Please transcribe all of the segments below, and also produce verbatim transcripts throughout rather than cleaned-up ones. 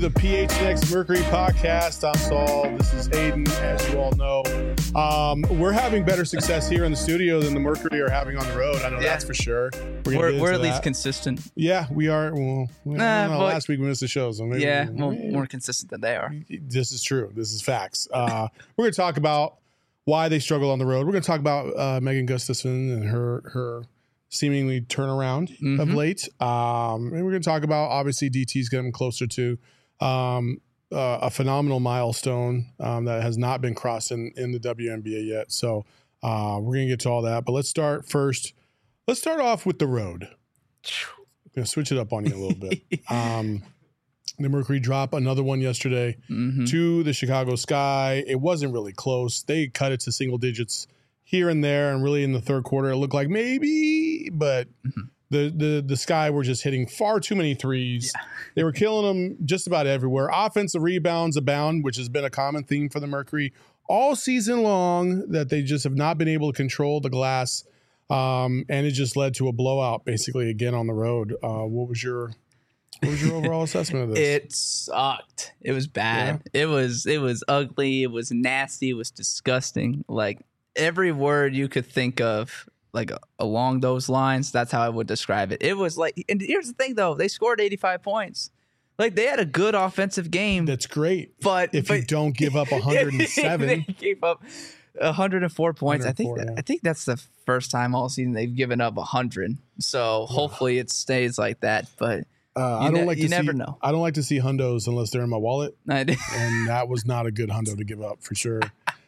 the P H N X Mercury podcast. I'm Saul. This is Hayden, as you all know. Um, we're having better success here in the studio than the Mercury are having on the road. I know yeah. that's for sure. We're, we're, we're at that. least consistent. Yeah, we are. Well, we, nah, know, last week we missed the show. So maybe, yeah, maybe, well, more consistent than they are. This is true. This is facts. Uh, we're going to talk about why they struggle on the road. We're going to talk about uh, Megan Gustafson and her her seemingly turnaround mm-hmm. of late. Um, and we're going to talk about, obviously, D T's getting closer to um, uh, a phenomenal milestone um, that has not been crossed in, in the W N B A yet. So uh, we're going to get to all that. But let's start first. Let's start off with the road. I'm going to switch it up on you a little bit. Um, the Mercury dropped another one yesterday mm-hmm. to the Chicago Sky. It wasn't really close. They cut it to single digits here and there, and really in the third quarter, it looked like maybe, but mm-hmm. the, the the Sky were just hitting far too many threes. Yeah. They were killing them just about everywhere. Offensive rebounds abound, which has been a common theme for the Mercury all season long, that they just have not been able to control the glass, um, and it just led to a blowout, basically, again on the road. Uh, what was your what was your overall assessment of this? It sucked. It was bad. Yeah. It was it was ugly. It was nasty. It was disgusting. Like, every word you could think of, like uh, along those lines, that's how I would describe it. It was like, and here's the thing though, they scored eighty-five points. Like, they had a good offensive game. That's great. But if but, you don't give up one hundred seven, they gave up one hundred four points. one hundred four, I think that, yeah. I think that's the first time all season they've given up one hundred. So yeah. hopefully it stays like that. But uh, I don't ne- like you to never see, know. I don't like to see hundos unless they're in my wallet. I do. And that was not a good hundo to give up for sure.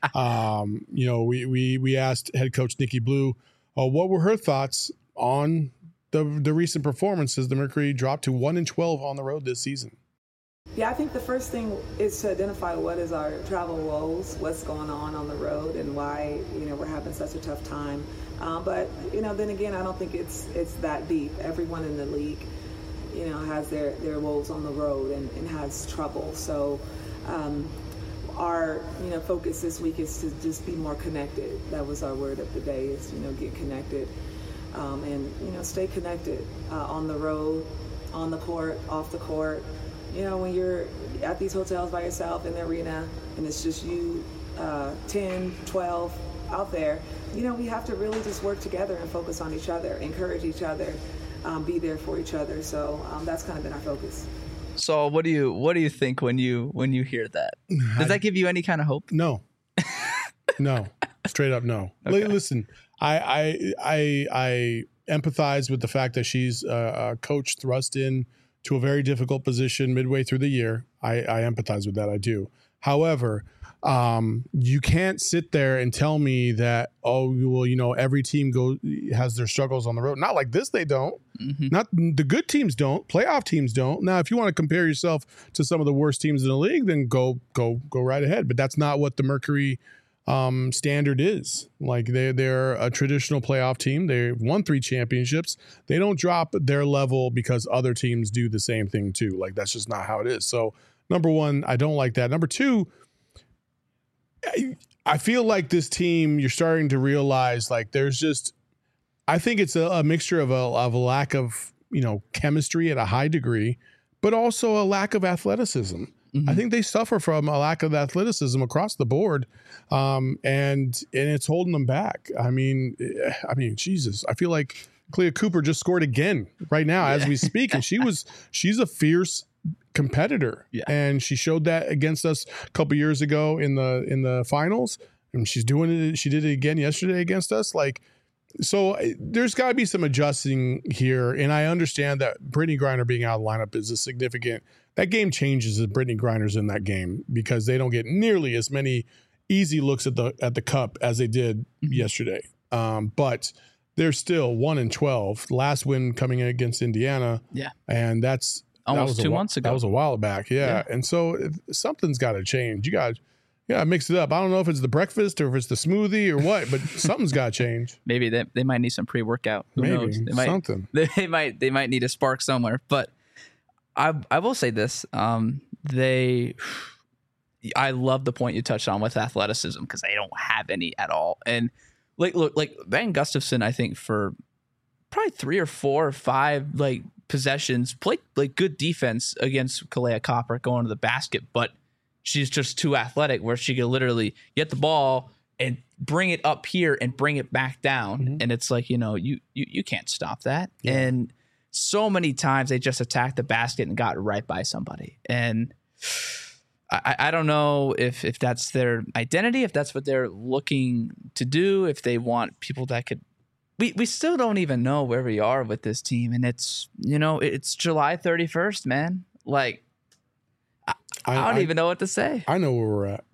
Um, you know, we we we asked head coach Nikki Blue, uh, what were her thoughts on the the recent performances. The Mercury dropped to one and twelve on the road this season. Yeah, I think the first thing is to identify what is our travel woes, what's going on on the road, and why you know we're having such a tough time. Um, but you know, then again, I don't think it's it's that deep. Everyone in the league, you know, has their their woes on the road and, and has trouble. So. Um, Our, you know, focus this week is to just be more connected. That was our word of the day, is, you know, get connected um, and, you know, stay connected uh, on the road, on the court, off the court. You know, when you're at these hotels by yourself in the arena and it's just you, uh, ten, twelve out there, you know, we have to really just work together and focus on each other, encourage each other, um, be there for each other. So um, that's kind of been our focus. So what do you what do you think when you when you hear that? Does that give you any kind of hope? No, no, straight up no. Okay. Listen, I I I I empathize with the fact that she's a, a coach thrust in to a very difficult position midway through the year. I, I empathize with that. I do. However, um, you can't sit there and tell me that, oh, well, you know, every team goes has their struggles on the road. Not like this, they don't. Mm-hmm. Not the good teams don't. Playoff teams don't. Now, if you want to compare yourself to some of the worst teams in the league, then go go go right ahead. But that's not what the Mercury um, standard is. Like they they're a traditional playoff team. They've won three championships. They don't drop their level because other teams do the same thing too. Like, that's just not how it is. So number one, I don't like that. Number two, I feel like this team, you're starting to realize, like, there's just, I think it's a, a mixture of a, of a lack of, you know, chemistry at a high degree, but also a lack of athleticism. Mm-hmm. I think they suffer from a lack of athleticism across the board, um, and and it's holding them back. I mean, I mean, Jesus, I feel like Clea Cooper just scored again right now yeah. as we speak, and she was she's a fierce competitor, yeah. and she showed that against us a couple years ago in the in the finals, and she's doing it. She did it again yesterday against us. Like, so there's got to be some adjusting here, and I understand that Brittany Griner being out of the lineup is a significant. That game changes if Brittany Griner's in that game, because they don't get nearly as many easy looks at the at the cup as they did mm-hmm. yesterday. Um, but they're still one and twelve. Last win coming in against Indiana, yeah, and that's. Almost two a, months ago. That was a while back, yeah. yeah. And so something's got to change. You got, yeah, mix it up. I don't know if it's the breakfast or if it's the smoothie or what, but something's got to change. Maybe they they might need some pre workout. Who Maybe knows? They might, something. They might they might need a spark somewhere. But I I will say this: um, they. I love the point you touched on with athleticism, because they don't have any at all. And like look like Megan Gustafson, I think for probably three or four or five like possessions, played like good defense against Kalea Copper going to the basket, but she's just too athletic where she could literally get the ball and bring it up here and bring it back down. Mm-hmm. And it's like, you know, you you you can't stop that. Yeah. And so many times they just attacked the basket and got right by somebody. And I, I don't know if if that's their identity, if that's what they're looking to do, if they want people that could. We we still don't even know where we are with this team, and it's you know it's July thirty-first, man. Like I, I don't I, even know what to say. I know where we're at.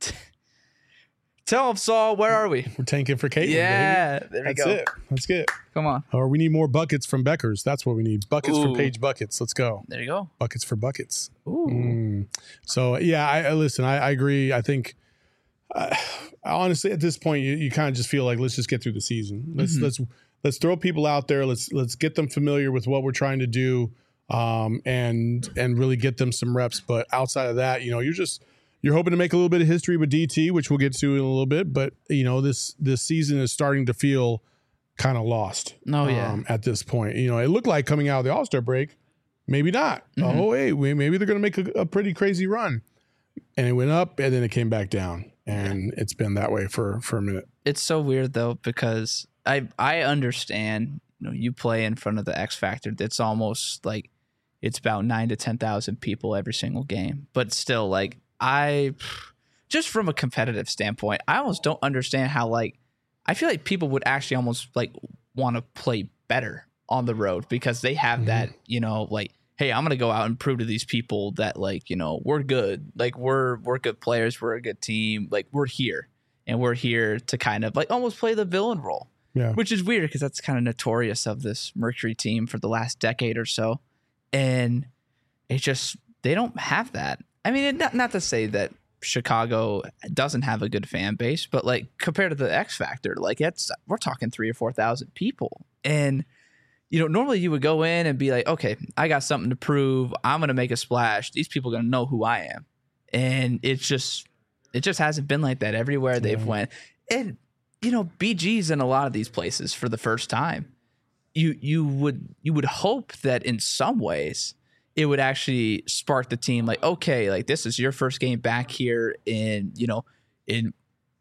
Tell them, Saul, where are we? We're tanking for Caitlin. Yeah, baby. there we That's go. it. Let's get it. Come on. Or we need more buckets from Beckers. That's what we need. Buckets Ooh. for Paige Buckets. Let's go. There you go. Buckets for buckets. Ooh. Mm. So yeah, I, I listen. I, I agree. I think uh, honestly, at this point, you, you kind of just feel like let's just get through the season. Let's mm-hmm. let's let's throw people out there. Let's let's get them familiar with what we're trying to do, um, and and really get them some reps. But outside of that, you know, you're just you're hoping to make a little bit of history with D T, which we'll get to in a little bit. But you know, this this season is starting to feel kind of lost. Oh yeah. Um, at this point, you know, it looked like coming out of the All-Star break, maybe not. Mm-hmm. Oh, hey, maybe they're going to make a, a pretty crazy run, and it went up, and then it came back down, and it's been that way for for a minute. It's so weird though, because I I understand. You know, you play in front of the X Factor. That's almost like it's about nine to ten thousand people every single game, but still, like I, just from a competitive standpoint, I almost don't understand how like. I feel like people would actually almost like want to play better on the road because they have mm-hmm. that, you know, like, hey, I'm going to go out and prove to these people that like, you know, we're good. Like we're, we're good players. We're a good team. Like we're here and we're here to kind of like almost play the villain role, yeah. which is weird because that's kind of notorious of this Mercury team for the last decade or so. And it just, they don't have that. I mean, not, not to say that Chicago doesn't have a good fan base, but like compared to the X Factor, like it's we're talking three or four thousand people, and you know normally you would go in and be like, okay, I got something to prove. I'm gonna make a splash. These people are gonna know who I am, and it's just it just hasn't been like that everywhere they've yeah. went. And you know B G's in a lot of these places for the first time. You you would you would hope that in some ways it would actually spark the team like, okay, like this is your first game back here in, you know, in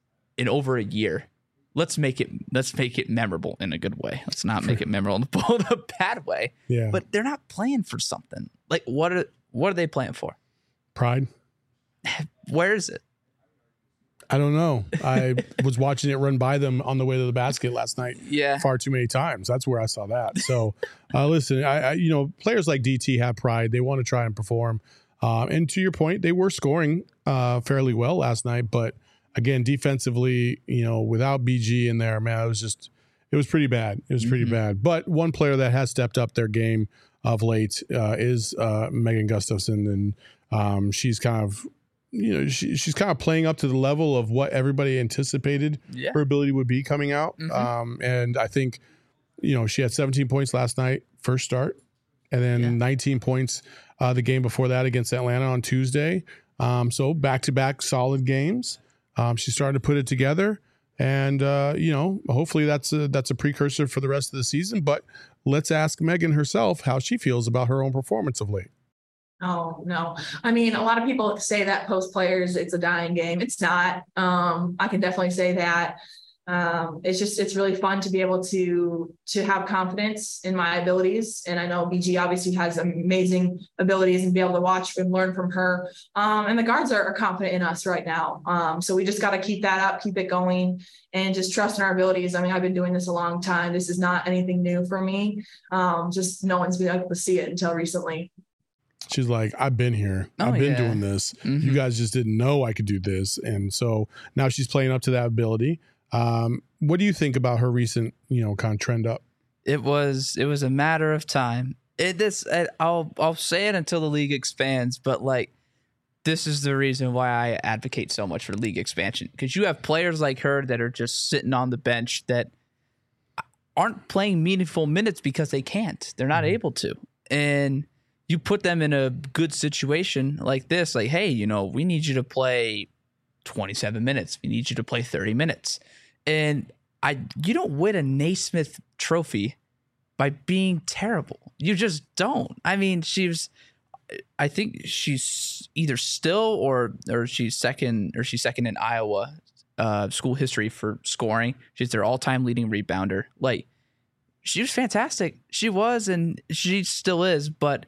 in over a year. Let's make it let's make it memorable in a good way. Let's not make it memorable in the bad way. Yeah. But they're not playing for something. Like what are what are they playing for? Pride. Where is it? I don't know. I was watching it run by them on the way to the basket last night. Yeah. Far too many times. That's where I saw that. So, uh, listen, I, I, you know, players like D T have pride. They want to try and perform. Uh, and to your point, they were scoring uh, fairly well last night. But again, defensively, you know, without B G in there, man, it was just, it was pretty bad. It was pretty mm-hmm. bad. But one player that has stepped up their game of late uh, is uh, Megan Gustafson. And um, she's kind of, you know, she, she's kind of playing up to the level of what everybody anticipated yeah. her ability would be coming out. Mm-hmm. Um, and I think, you know, she had seventeen points last night, first start, and then yeah. nineteen points uh, the game before that against Atlanta on Tuesday. Um, so back-to-back solid games. Um, she's starting to put it together. And, uh, you know, hopefully that's a, that's a precursor for the rest of the season. But let's ask Megan herself how she feels about her own performance of late. Oh, no. I mean, a lot of people say that post players, it's a dying game. It's not. Um, I can definitely say that. Um, it's just, it's really fun to be able to, to have confidence in my abilities. And I know B G obviously has amazing abilities and be able to watch and learn from her. Um, and the guards are, are confident in us right now. Um, so we just got to keep that up, keep it going, and just trust in our abilities. I mean, I've been doing this a long time. This is not anything new for me. Um, just no one's been able to see it until recently. She's like, I've been here. Oh, I've been yeah. doing this. Mm-hmm. You guys just didn't know I could do this. And so now she's playing up to that ability. Um, what do you think about her recent, you know, kind of trend up? It was it was a matter of time. It this it, I'll I'll say it until the league expands, but like this is the reason why I advocate so much for league expansion, because you have players like her that are just sitting on the bench that aren't playing meaningful minutes because they can't. They're not mm-hmm. able to. And you put them in a good situation like this, like, hey, you know, we need you to play twenty-seven minutes. We need you to play thirty minutes. And I, you don't win a Naismith trophy by being terrible. You just don't. I mean, she's, I think she's either still or or she's second or she's second in Iowa uh, school history for scoring. She's their all-time leading rebounder. Like, she was fantastic. She was, and she still is. But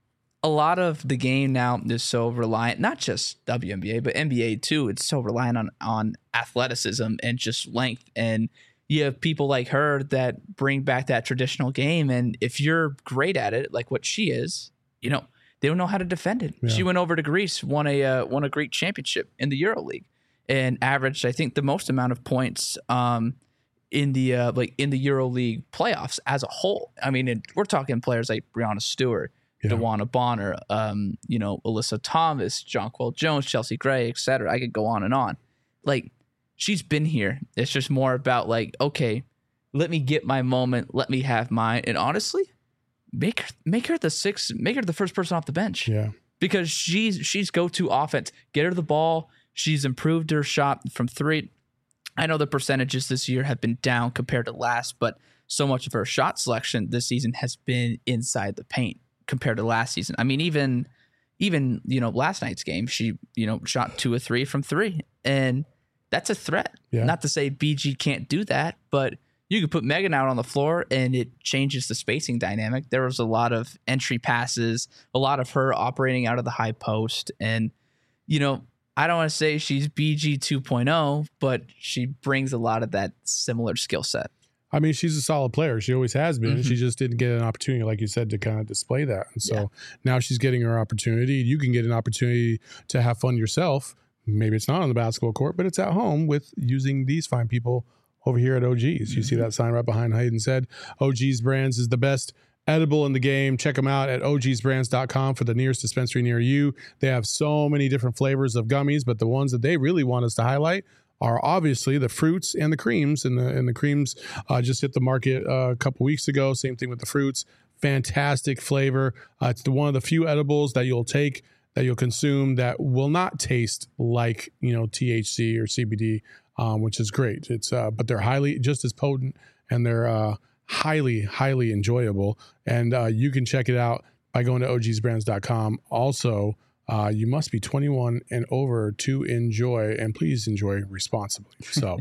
a lot of the game now is so reliant, not just W N B A, but N B A too. It's so reliant on on athleticism and just length. And you have people like her that bring back that traditional game. And if you're great at it, like what she is, you know, they don't know how to defend it. Yeah. She went over to Greece, won a uh, won a Greek championship in the EuroLeague, and averaged, I think, the most amount of points um, in the uh, like in the EuroLeague playoffs as a whole. I mean, it, we're talking players like Breanna Stewart, yeah. DeWanna Bonner, um, you know, Alyssa Thomas, Jonquel Jones, Chelsea Gray, et cetera. I could go on and on. Like, she's been here. It's just more about like, okay, let me get my moment. Let me have mine. And honestly, make her make her the sixth, make her the first person off the bench. Yeah. Because she's she's go-to offense. Get her the ball. She's improved her shot from three. I know the percentages this year have been down compared to last, but so much of her shot selection this season has been inside the paint compared to last season. I mean, even even, you know, last night's game, she, you know, shot two or three from three. And that's a threat. Yeah. Not to say B G can't do that, but you could put Megan out on the floor and it changes the spacing dynamic. There was a lot of entry passes, a lot of her operating out of the high post. And, you know, I don't want to say she's B G two point oh, but she brings a lot of that similar skill set. I mean, she's a solid player. She always has been. Mm-hmm. She just didn't get an opportunity, like you said, to kind of display that. And so yeah. now she's getting her opportunity. You can get an opportunity to have fun yourself. Maybe it's not on the basketball court, but it's at home with using these fine people over here at O G's. You mm-hmm. see that sign right behind Hayden said, O G's Brands is the best edible in the game. Check them out at O Gs brands dot com for the nearest dispensary near you. They have so many different flavors of gummies, but the ones that they really want us to highlight are obviously the fruits and the creams. And the and the creams uh, just hit the market uh, a couple weeks ago. Same thing with the fruits. Fantastic flavor. Uh, it's the one of the few edibles that you'll take, that you'll consume, that will not taste like, you know, T H C or C B D, um, which is great. It's uh, but they're highly just as potent, and they're uh, highly, highly enjoyable. And uh, you can check it out by going to O Gs brands dot com. Also, Uh, you must be twenty-one and over to enjoy, and please enjoy responsibly. So,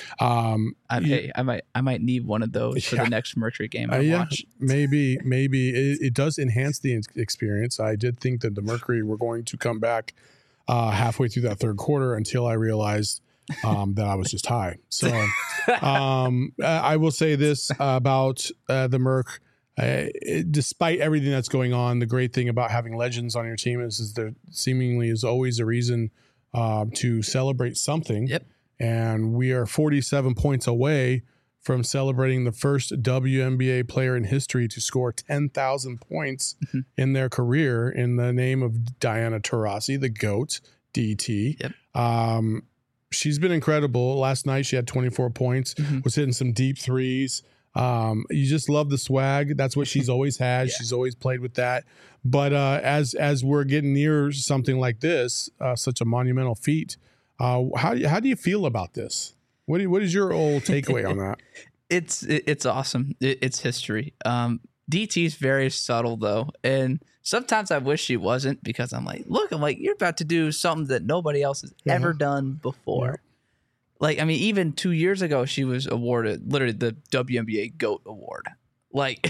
um, I, you, hey, I might, I might need one of those yeah. for the next Mercury game I uh, yeah, watch. Maybe, maybe it, it does enhance the experience. I did think that the Mercury were going to come back uh, halfway through that third quarter until I realized um, that I was just high. So, um, I will say this about uh, the Merc. Uh, it, despite everything that's going on, the great thing about having legends on your team is, is there seemingly is always a reason uh, to celebrate something. Yep. And we are forty-seven points away from celebrating the first W N B A player in history to score ten thousand points mm-hmm. in their career in the name of Diana Taurasi, the GOAT, D T. Yep. Um, she's been incredible. Last night she had twenty-four points, mm-hmm. was hitting some deep threes. Um, you just love the swag. That's what she's always had. yeah. She's always played with that. But uh, as as we're getting near something like this, uh, such a monumental feat, uh, how how do you feel about this? What do you, what is your old takeaway on that? It's it's awesome. It's history. Um, D T's very subtle though, and sometimes I wish she wasn't, because I'm like, look, I'm like, you're about to do something that nobody else has yeah. ever done before. Yeah. Like, I mean, even two years ago, she was awarded literally the W N B A GOAT award. Like,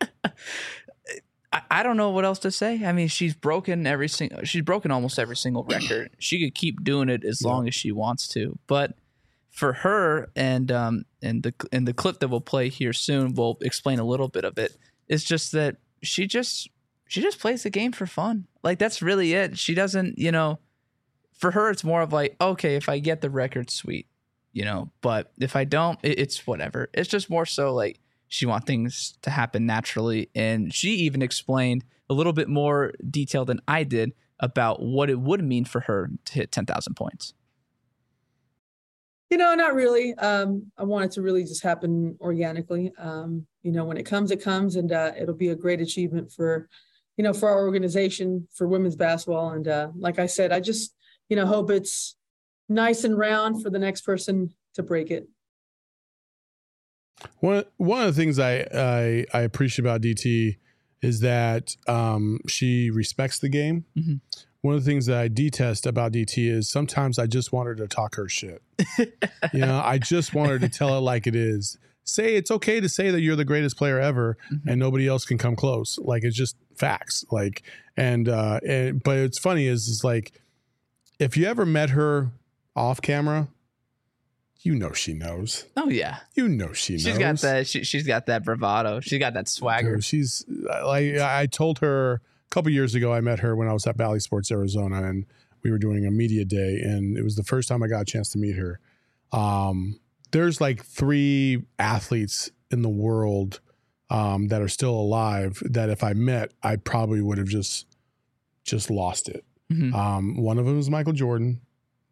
I, I don't know what else to say. I mean, she's broken every single, she's broken almost every single record. She could keep doing it as yeah. long as she wants to. But for her, and um, and the and the clip that we'll play here soon will explain a little bit of it. It's just that she just she just plays the game for fun. Like, that's really it. She doesn't, you know. For her, it's more of like, okay, if I get the record, sweet, you know, but if I don't, it, it's whatever. It's just more so like she wants things to happen naturally. And she even explained a little bit more detail than I did about what it would mean for her to hit ten thousand points. You know, not really. Um, I want it to really just happen organically. Um, you know, when it comes, it comes, and uh, it'll be a great achievement for, you know, for our organization, for women's basketball. And uh, like I said, I just, you know, hope it's nice and round for the next person to break it. One one of the things I I, I appreciate about D T is that um, she respects the game. Mm-hmm. One of the things that I detest about D T is sometimes I just want her to talk her shit. You know, I just want her to tell it like it is. Say it's okay to say that you're the greatest player ever, mm-hmm. and nobody else can come close. Like, it's just facts. Like, and uh, and but it's funny is is like, if you ever met her off camera, you know she knows. Oh yeah, you know she knows. She's got that. She, she's got that bravado. She's got that swagger. Dude, she's like, I told her a couple years ago. I met her when I was at Valley Sports Arizona, and we were doing a media day, and it was the first time I got a chance to meet her. Um, there's like three athletes in the world um, that are still alive that if I met, I probably would have just just lost it. Mm-hmm. Um, one of them is Michael Jordan.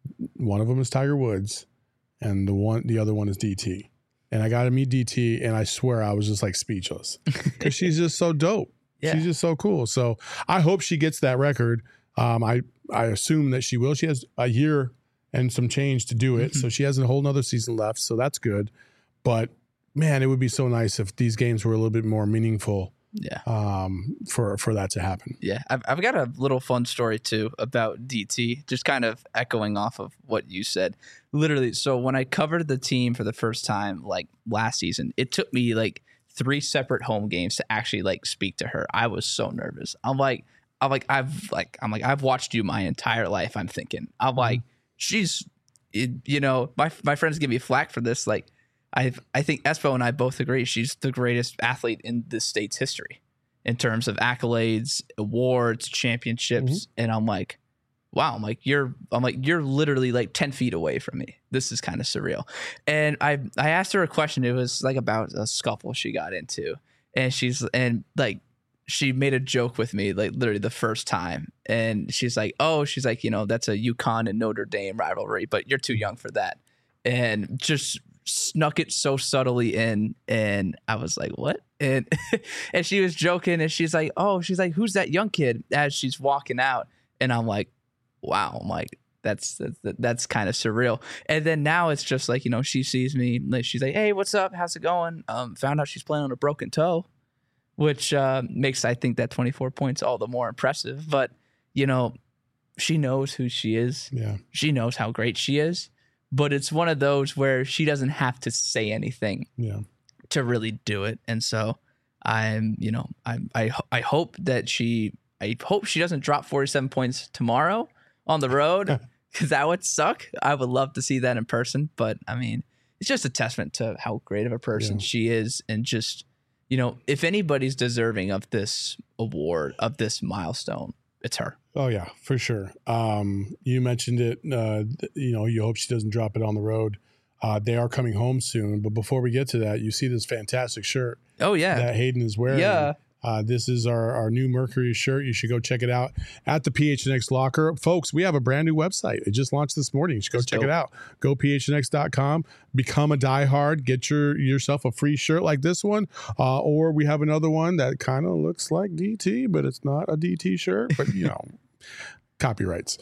One of them is Tiger Woods. And the one, the other one is D T. And I got to meet D T, and I swear I was just like speechless because she's just so dope. Yeah. She's just so cool. So I hope she gets that record. Um, I, I assume that she will. She has a year and some change to do it. Mm-hmm. So she has a whole nother season left. So that's good. But man, it would be so nice if these games were a little bit more meaningful. Yeah. Um, for, for that to happen. Yeah. I've, I've got a little fun story too about D T, just kind of echoing off of what you said. Literally. So when I covered the team for the first time, like last season, it took me like three separate home games to actually like speak to her. I was so nervous. I'm like, I'm like, I've like, I'm like, I've watched you my entire life. I'm thinking, I'm like, she's, it, you know, my, my friends give me flack for this. Like, I I think Espo and I both agree she's the greatest athlete in the state's history in terms of accolades, awards, championships. Mm-hmm. And I'm like, wow, I'm like, you're I'm like, you're literally like ten feet away from me. This is kind of surreal. And I I asked her a question. It was like about a scuffle she got into. And she's and like she made a joke with me, like literally the first time. And she's like, oh, she's like, you know, that's a UConn and Notre Dame rivalry, but you're too young for that. And just snuck it so subtly in, and I was like, what? And and she was joking, and she's like, oh, she's like, who's that young kid, as she's walking out. And I'm like, wow, I'm like, that's that's, that's kind of surreal. And then now it's just like, you know, she sees me, like, she's like, hey, what's up, how's it going? Um found out she's playing on a broken toe, which uh makes, I think, that twenty-four points all the more impressive. But you know, she knows who she is. Yeah, she knows how great she is. But it's one of those where she doesn't have to say anything yeah. to really do it. And so I'm, you know, I I I hope that she, I hope she doesn't drop forty-seven points tomorrow on the road, because that would suck. I would love to see that in person. But I mean, it's just a testament to how great of a person yeah. she is. And just, you know, if anybody's deserving of this award, of this milestone, it's her. Oh yeah, for sure. Um, you mentioned it, uh, you know, you hope she doesn't drop it on the road. Uh, they are coming home soon. But before we get to that, you see this fantastic shirt. Oh yeah. That Hayden is wearing. Yeah. Uh, this is our, our new Mercury shirt. You should go check it out at the P H N X Locker. Folks, we have a brand new website. It just launched this morning. You should go That's check dope. it out. Go P H N X dot com. Become a diehard. Get your yourself a free shirt like this one. Uh, or we have another one that kind of looks like D T, but it's not a D T shirt. But, you know, copyrights.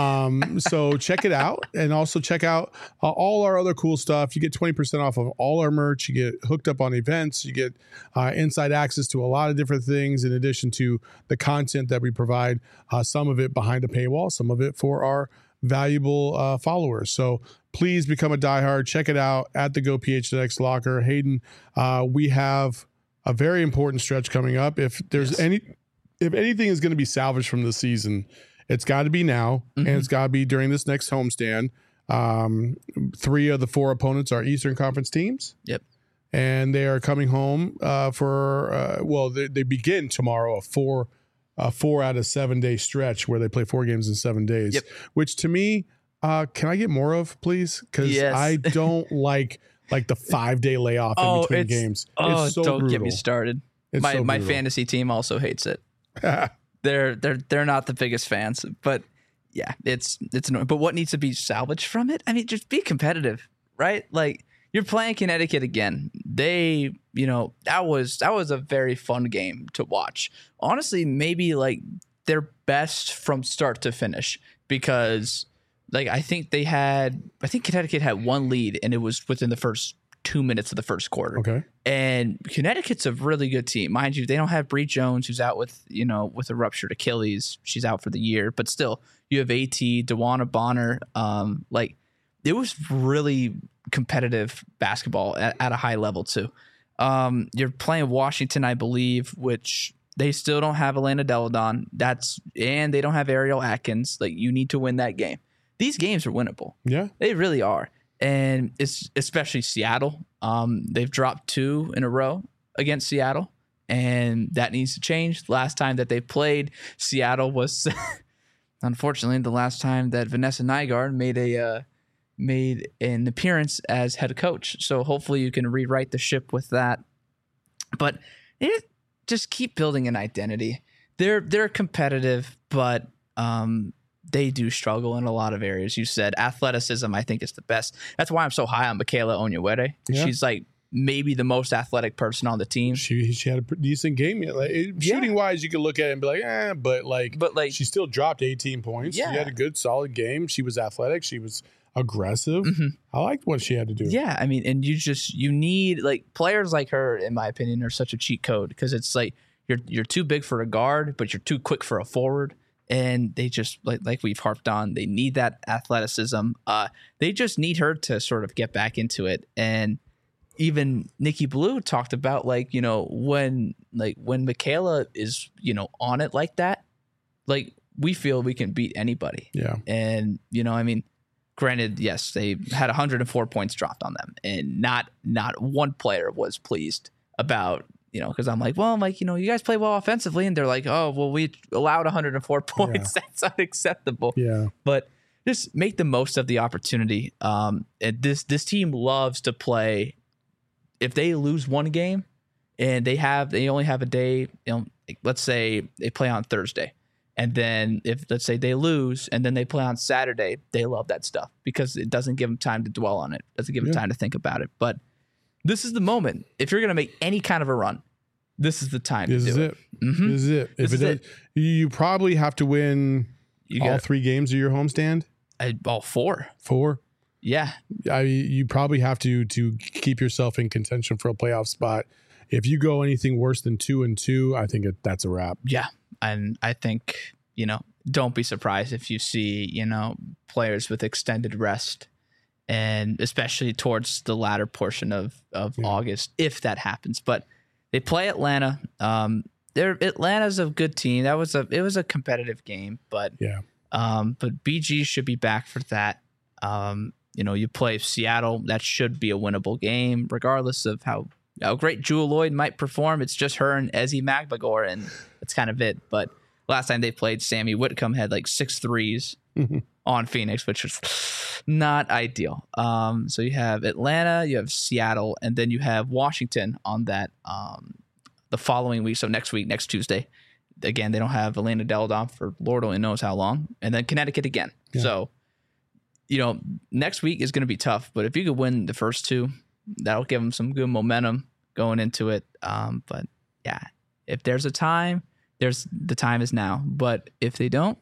Um, so check it out, and also check out uh, all our other cool stuff. You get twenty percent off of all our merch. You get hooked up on events. You get uh, inside access to a lot of different things, in addition to the content that we provide, uh, some of it behind a paywall, some of it for our valuable uh, followers. So please become a diehard. Check it out at the Go P H N X Locker. Hayden, uh, we have a very important stretch coming up. If there's yes. any, if anything is going to be salvaged from the season, it's got to be now, mm-hmm. and it's got to be during this next homestand. Um, three of the four opponents are Eastern Conference teams. Yep. And they are coming home uh, for, uh, well, they, they begin tomorrow, a four, a four out of seven day stretch where they play four games in seven days, yep. which to me, uh, can I get more of, please? Because yes. I don't like like the five day layoff oh, in between it's, games. Oh, it's so don't brutal. get me started. It's my so my brutal. fantasy team also hates it. They're they're they're not the biggest fans, but yeah, it's it's annoying. But what needs to be salvaged from it? I mean, just be competitive, right? Like, you're playing Connecticut again. They, you know, that was that was a very fun game to watch. Honestly, maybe like their best from start to finish, because like I think they had I think Connecticut had one lead, and it was within the first two minutes of the first quarter. Okay. And Connecticut's a really good team. Mind you, they don't have Bree Jones, who's out with, you know, with a ruptured Achilles. She's out for the year. But still, you have AT, DeWanna Bonner. Um, like, it was really competitive basketball at, at a high level, too. Um, you're playing Washington, I believe, which they still don't have Elena Deladon. That's and they don't have Ariel Atkins. Like, you need to win that game. These games are winnable. Yeah. They really are. And it's especially Seattle. Um, they've dropped two in a row against Seattle, and that needs to change. Last time that they played, Seattle was, unfortunately, the last time that Vanessa Nygaard made a uh, made an appearance as head coach. So hopefully you can rewrite the ship with that. But it, just keep building an identity. They're they're competitive, but um, they do struggle in a lot of areas. You said athleticism, I think, is the best. That's why I'm so high on Michaela Onyenwere. Yeah. She's like maybe the most athletic person on the team. She she had a decent game. Like, shooting yeah. wise, you could look at it and be like, eh, but like, but like, she still dropped eighteen points. Yeah. She had a good, solid game. She was athletic. She was aggressive. Mm-hmm. I liked what she had to do. Yeah, I mean, and you just you need like players like her, in my opinion, are such a cheat code because it's like you're you're too big for a guard, but you're too quick for a forward. And they just, like like we've harped on, they need that athleticism. Uh, they just need her to sort of get back into it. And even Nikki Blue talked about, like, you know, when like when Michaela is, you know, on it like that, like we feel we can beat anybody. Yeah. And, you know, I mean, granted, yes, they had one hundred four points dropped on them, and not not one player was pleased about. You know, because I'm like, well, I'm like, you know, you guys play well offensively. And they're like, oh, well, we allowed one hundred four points. Yeah. That's unacceptable. Yeah. But just make the most of the opportunity. Um, and this this team loves to play. If they lose one game and they have they only have a day, you know, like, let's say they play on Thursday. And then if let's say they lose and then they play on Saturday, they love that stuff because it doesn't give them time to dwell on it. It doesn't give them yeah. time to think about it. But this is the moment. If you're going to make any kind of a run, this is the time this to do is it. it. Mm-hmm. This is it. This if is it, it. Does, you probably have to win you all three games of your homestand. I, all four. Four. Yeah. I you probably have to to keep yourself in contention for a playoff spot. If you go anything worse than two and two, I think it, that's a wrap. Yeah, and I think, you know, don't be surprised if you see, you know, players with extended rest. And especially towards the latter portion of, of yeah. August, if that happens. But they play Atlanta. Um, they're Atlanta's a good team. That was a it was a competitive game, but yeah. Um, but B G should be back for that. Um, you know, you play Seattle. That should be a winnable game, regardless of how how great Jewel Lloyd might perform. It's just her and Ezi Magbagor, and that's kind of it. But last time they played, Sammy Whitcomb had like six threes. On Phoenix, which was not ideal. Um, so you have Atlanta, you have Seattle, and then you have Washington on that um, the following week. So next week, next Tuesday. Again, they don't have Elena Deladon for Lord only knows how long. And then Connecticut again. Yeah. So, you know, next week is going to be tough. But if you could win the first two, that'll give them some good momentum going into it. Um, but, yeah, if there's a time, there's the time is now. But if they don't,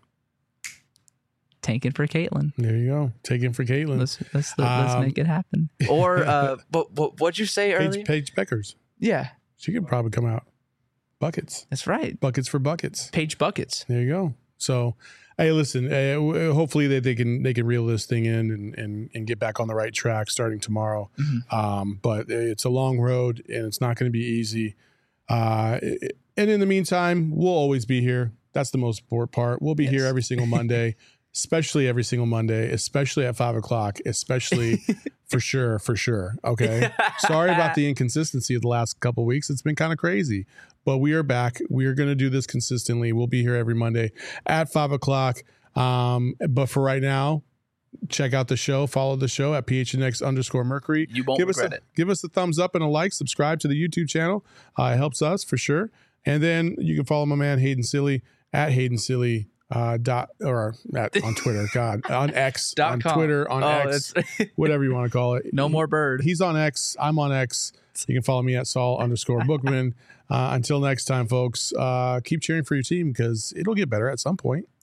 tanking for Caitlin. There you go. Taking for Caitlin. Let's let's, let's um, make it happen. Or uh, but, but what'd you say earlier? Paige, Paige Beckers. Yeah, she could probably come out. Buckets. That's right. Buckets for buckets. Paige buckets. There you go. So, hey, listen. Uh, hopefully they, they can they can reel this thing in and and, and get back on the right track starting tomorrow. Mm-hmm. Um, but it's a long road and it's not going to be easy. Uh, and in the meantime, we'll always be here. That's the most important part. We'll be yes. here every single Monday. Especially every single Monday, especially at five o'clock, especially for sure, for sure. Okay. Sorry about the inconsistency of the last couple of weeks. It's been kind of crazy, but we are back. We are going to do this consistently. We'll be here every Monday at five o'clock. Um, but for right now, check out the show, follow the show at P H N X underscore Mercury. You won't give regret us a, it. Give us a thumbs up and a like, subscribe to the YouTube channel. Uh, it helps us for sure. And then you can follow my man Hayden Silly at Hayden Silly. Uh, dot or at, on Twitter, God, on X, on com. Twitter, on oh, X, whatever you want to call it. No more bird. He's on X. I'm on X. You can follow me at Saul underscore Bookman. Uh, until next time, folks, uh, keep cheering for your team because it'll get better at some point.